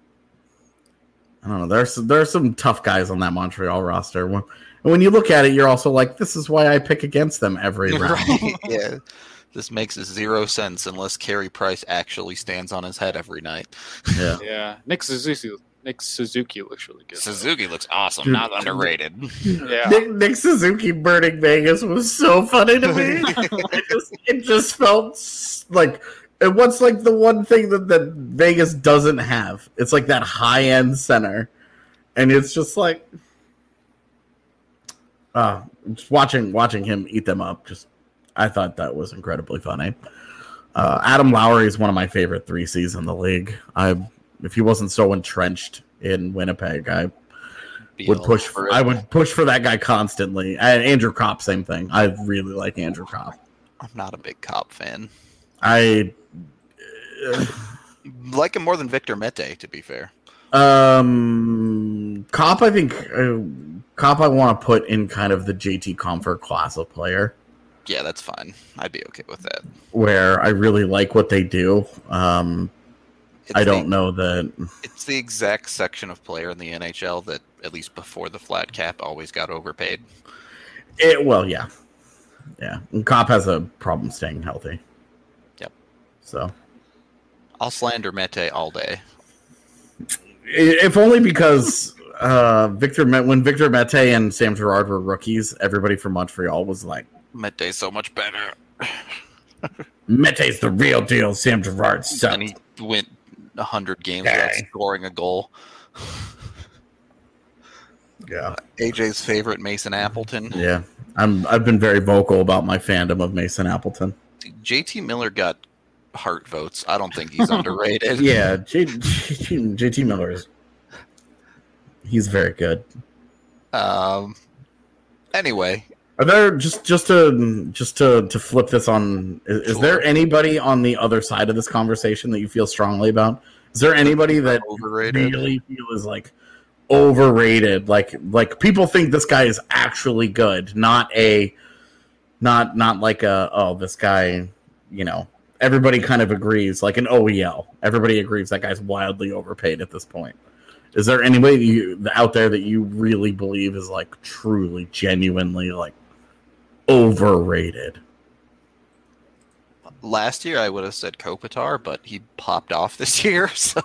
I don't know. There are some tough guys on that Montreal roster. When you look at it, you're also like, this is why I pick against them every round. Right, yeah. This makes zero sense unless Carey Price actually stands on his head every night. Yeah. Yeah. Nick Suzuki looks really good. Suzuki looks awesome, Dude. Not underrated. Yeah. Nick Suzuki burning Vegas was so funny to me. it just felt like, and what's like the one thing that Vegas doesn't have? It's like that high end center, and it's just like, just watching him eat them up. I thought that was incredibly funny. Adam Lowry is one of my favorite 3Cs in the league. If he wasn't so entrenched in Winnipeg, I would push for that guy constantly. And Andrew Kopp, same thing. I really like Andrew Kopp. I'm not a big Kopp fan. I like him more than Victor Mete, to be fair. Kopp, I think Kopp I want to put in kind of the JT Compher class of player. Yeah, that's fine. I'd be okay with that. Where I really like what they do. I don't know that it's the exact section of player in the NHL that, at least before the flat cap, always got overpaid. Yeah. And Kopp has a problem staying healthy. Yep. So I'll slander Mete all day. If only because when Victor Mete and Sam Girard were rookies, everybody from Montreal was like, Mete's so much better. Mete's the real deal. Sam Girard sucked. And he went 100 games without scoring a goal. Yeah. AJ's favorite, Mason Appleton. Yeah. I've been very vocal about my fandom of Mason Appleton. JT Miller got heart votes. I don't think he's underrated. Yeah, JT Miller he's very good. Anyway, are there just to flip this on? Is there anybody on the other side of this conversation that you feel strongly about? Is there anybody that overrated? Really feel is like overrated? Like people think this guy is actually good, not like this guy. Everybody kind of agrees, like an OEL. Everybody agrees that guy's wildly overpaid at this point. Is there anybody out there that you really believe is like truly, genuinely like overrated? Last year I would have said Kopitar, but he popped off this year, so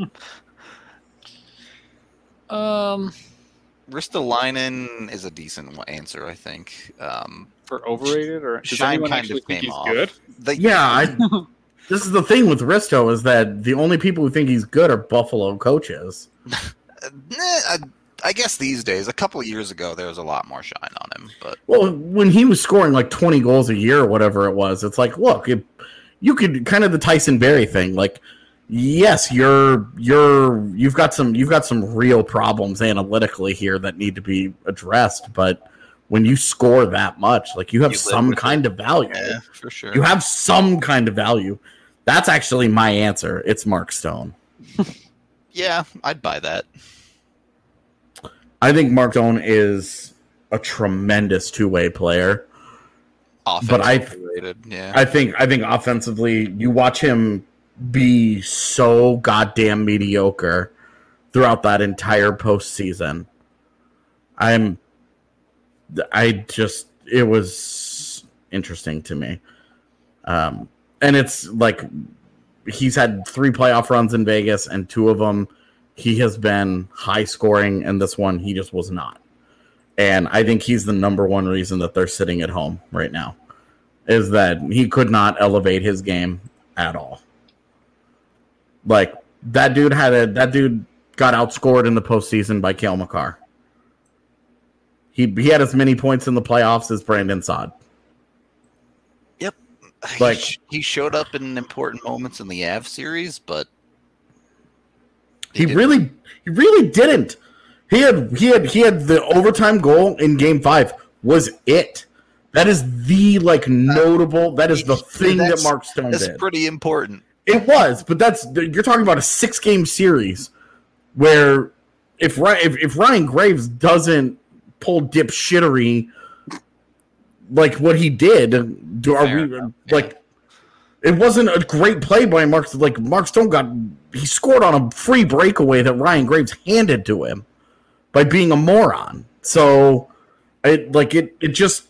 Ristolainen is a decent answer, I think. For overrated, or does Shine anyone kind actually of think came he's off. good? This is the thing with Risto is that the only people who think he's good are Buffalo coaches. I guess these days, a couple of years ago, there was a lot more shine on him. But Well, when he was scoring like 20 goals a year or whatever it was, it's like, look, you could kind of the Tyson Berry thing. Like, yes, you've got some real problems analytically here that need to be addressed, but when you score that much, like you have some kind of value. yeah, for sure. You have some kind of value. That's actually my answer. It's Mark Stone. Yeah, I'd buy that. I think Mark Stone is a tremendous two-way player. But yeah. I think offensively, you watch him be so goddamn mediocre throughout that entire postseason. It was interesting to me. And it's like he's had 3 playoff runs in Vegas, and 2 of them he has been high scoring, and this one he just was not. And I think he's the number one reason that they're sitting at home right now, is that he could not elevate his game at all. Like that dude got outscored in the postseason by Cale Makar. He had as many points in the playoffs as Brandon Saad. Yep. Like he showed up in important moments in the Avs series, but he really didn't. He had the overtime goal in Game 5 was it. That is the notable. That is the thing that Mark Stone did. That's pretty important. It was, but you're talking about a 6-game series where if Ryan Graves doesn't pull dipshittery like what he did, it wasn't a great play by Mark. Like Mark Stone he scored on a free breakaway that Ryan Graves handed to him by being a moron. So it just,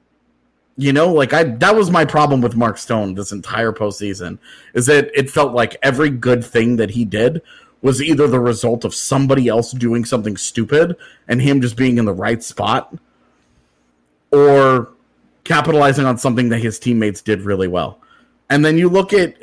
that was my problem with Mark Stone this entire postseason, is that it felt like every good thing that he did was either the result of somebody else doing something stupid and him just being in the right spot, or capitalizing on something that his teammates did really well. And then you look at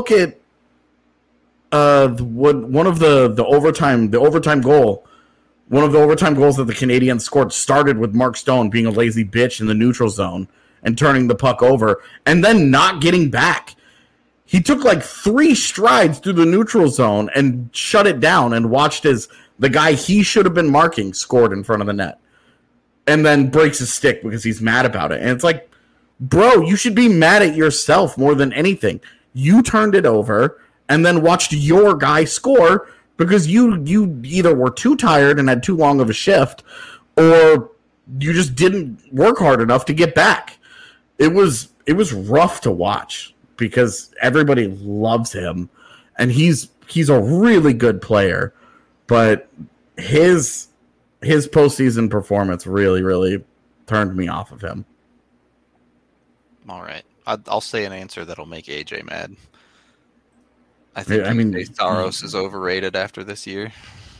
one of the overtime goal. One of the overtime goals that the Canadiens scored started with Mark Stone being a lazy bitch in the neutral zone and turning the puck over and then not getting back. He took 3 strides through the neutral zone and shut it down and watched as the guy he should have been marking scored in front of the net, and then breaks his stick because he's mad about it. And it's like, bro, you should be mad at yourself more than anything. You turned it over and then watched your guy score because you either were too tired and had too long of a shift, or you just didn't work hard enough to get back. It was rough to watch because everybody loves him and he's a really good player, but his postseason performance really, really turned me off of him. All right. I'll say an answer that'll make AJ mad. I think Saros is overrated after this year.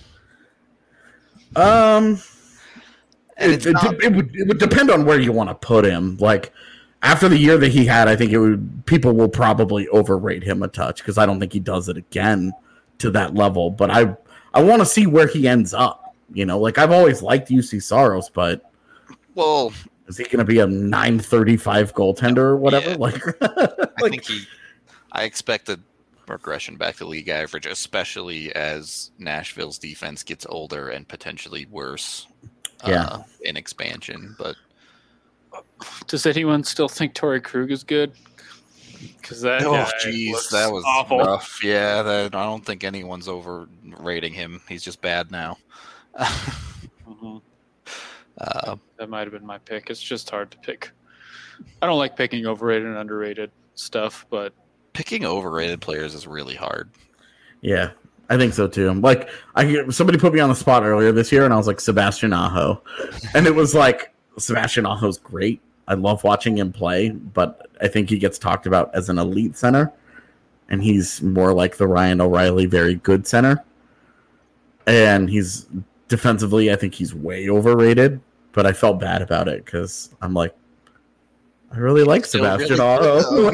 It would depend on where you want to put him. Like after the year that he had, I think people will probably overrate him a touch because I don't think he does it again to that level. But I want to see where he ends up. I've always liked UC Saros, but is he going to be a .935 goaltender or whatever? Yeah. I expect a regression back to league average, especially as Nashville's defense gets older and potentially worse in expansion. But does anyone still think Torrey Krug is good? Because that was awful. Rough. Yeah, I don't think anyone's overrating him. He's just bad now. Mm-hmm. That might have been my pick. It's just hard to pick. I don't like picking overrated and underrated stuff, but picking overrated players is really hard. Yeah, I think so too. Somebody put me on the spot earlier this year, and I was like Sebastian Aho, and it was like Sebastian Aho's great. I love watching him play, but I think he gets talked about as an elite center, and he's more like the Ryan O'Reilly, very good center. And he's defensively, I think he's way overrated, but I felt bad about it because I'm like, I really like Sebastian Aho.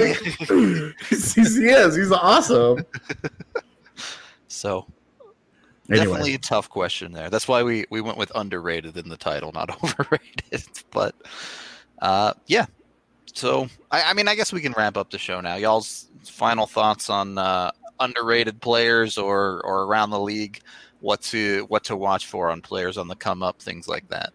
He's awesome. So Anyway. definitely a tough question there. That's why we went with underrated in the title, not overrated. But yeah. So I mean, I guess we can wrap up the show now. Y'all's final thoughts on underrated players or around the league, what to watch for on players on the come up, things like that.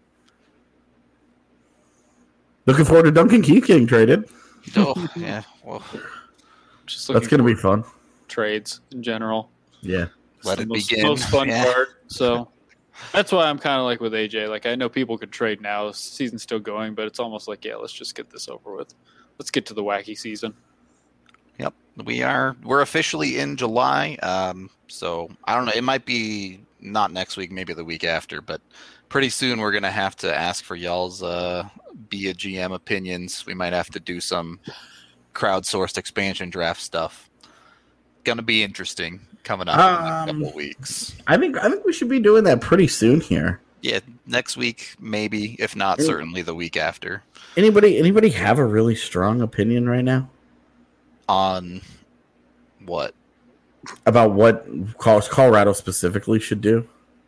Looking forward to Duncan Keith getting traded. Oh yeah, well, Just That's going to be fun. trades in general. Yeah. let it Most- begin. Most fun Yeah. part. So that's why I'm kind of like with AJ. Like I know people could trade now. The season's still going, but it's almost like, yeah, let's just get this over with. Let's get to the wacky season. Yep, we're officially in July. So I don't know. It might be not next week, maybe the week after, but pretty soon we're gonna have to ask for y'all's be a GM opinions. We might have to do some crowdsourced expansion draft stuff. Gonna be interesting coming up in the next couple of weeks. I think we should be doing that pretty soon here. Yeah, next week maybe, if not certainly the week after. Anybody have a really strong opinion right now On what? about what Colorado specifically should do?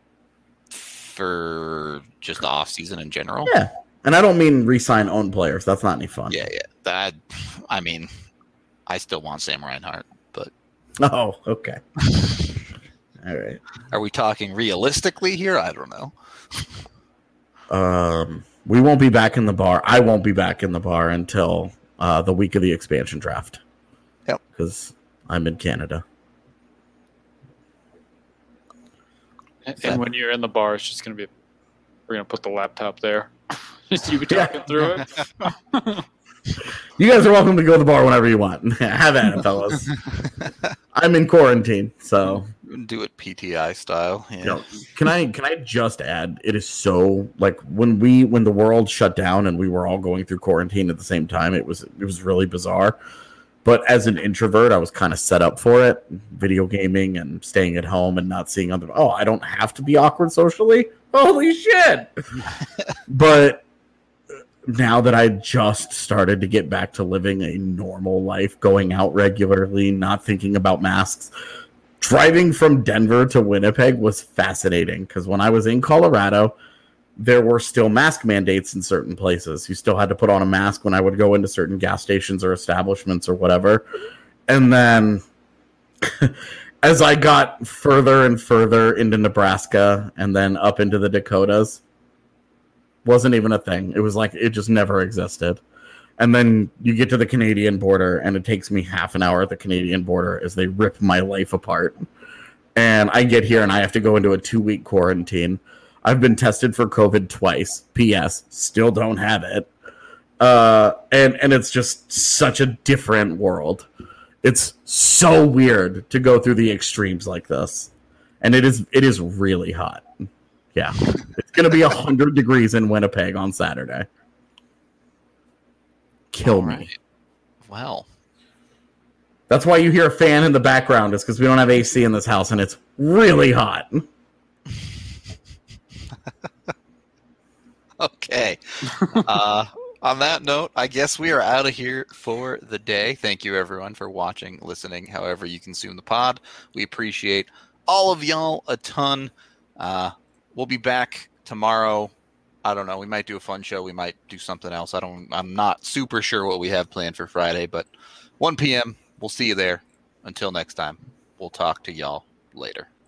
For just the off season in general? Yeah. And I don't mean re-sign own players. That's not any fun. Yeah. That, I mean, I still want Sam Reinhart, but Oh, okay. All right. are we talking realistically here? I don't know. We won't be back in the bar. I won't be back in the bar until the week of the expansion draft. Yep. Because I'm in Canada. And when you're in the bar, it's just going to be, we're going to put the laptop there. Just you be talking through it. You guys are welcome to go to the bar whenever you want. Have at it, fellas. I'm in quarantine, so Do it PTI style. Yeah. you know, can I just add? It is so like when the world shut down and we were all going through quarantine at the same time. It was really bizarre. But as an introvert, I was kind of set up for it. Video gaming and staying at home and not seeing other. Oh, I don't have to be awkward socially. Holy shit! But now that I just started to get back to living a normal life, going out regularly, not thinking about masks, driving from Denver to Winnipeg was fascinating because when I was in Colorado, there were still mask mandates in certain places. You still had to put on a mask when I would go into certain gas stations or establishments or whatever. And then as I got further and further into Nebraska and then up into the Dakotas, wasn't even a thing. It was like it just never existed. And then you get to the Canadian border and it takes me half an hour at the Canadian border as they rip my life apart. And I get here and I have to go into a 2-week quarantine. I've been tested for COVID twice. P.S. Still don't have it. And it's just such a different world. It's so weird to go through the extremes like this. And it is really hot. Yeah. It's going to be 100 degrees in Winnipeg on Saturday. Kill me. Right. Well, That's why you hear a fan in the background. It's because we don't have AC in this house and it's really hot. okay. On that note, I guess we are out of here for the day. Thank you, everyone, for watching, listening, however you consume the pod. We appreciate all of y'all a ton. We'll be back tomorrow. I don't know. We might do a fun show. We might do something else. I'm not super sure what we have planned for Friday, but 1 p.m. We'll see you there. Until next time, we'll talk to y'all later.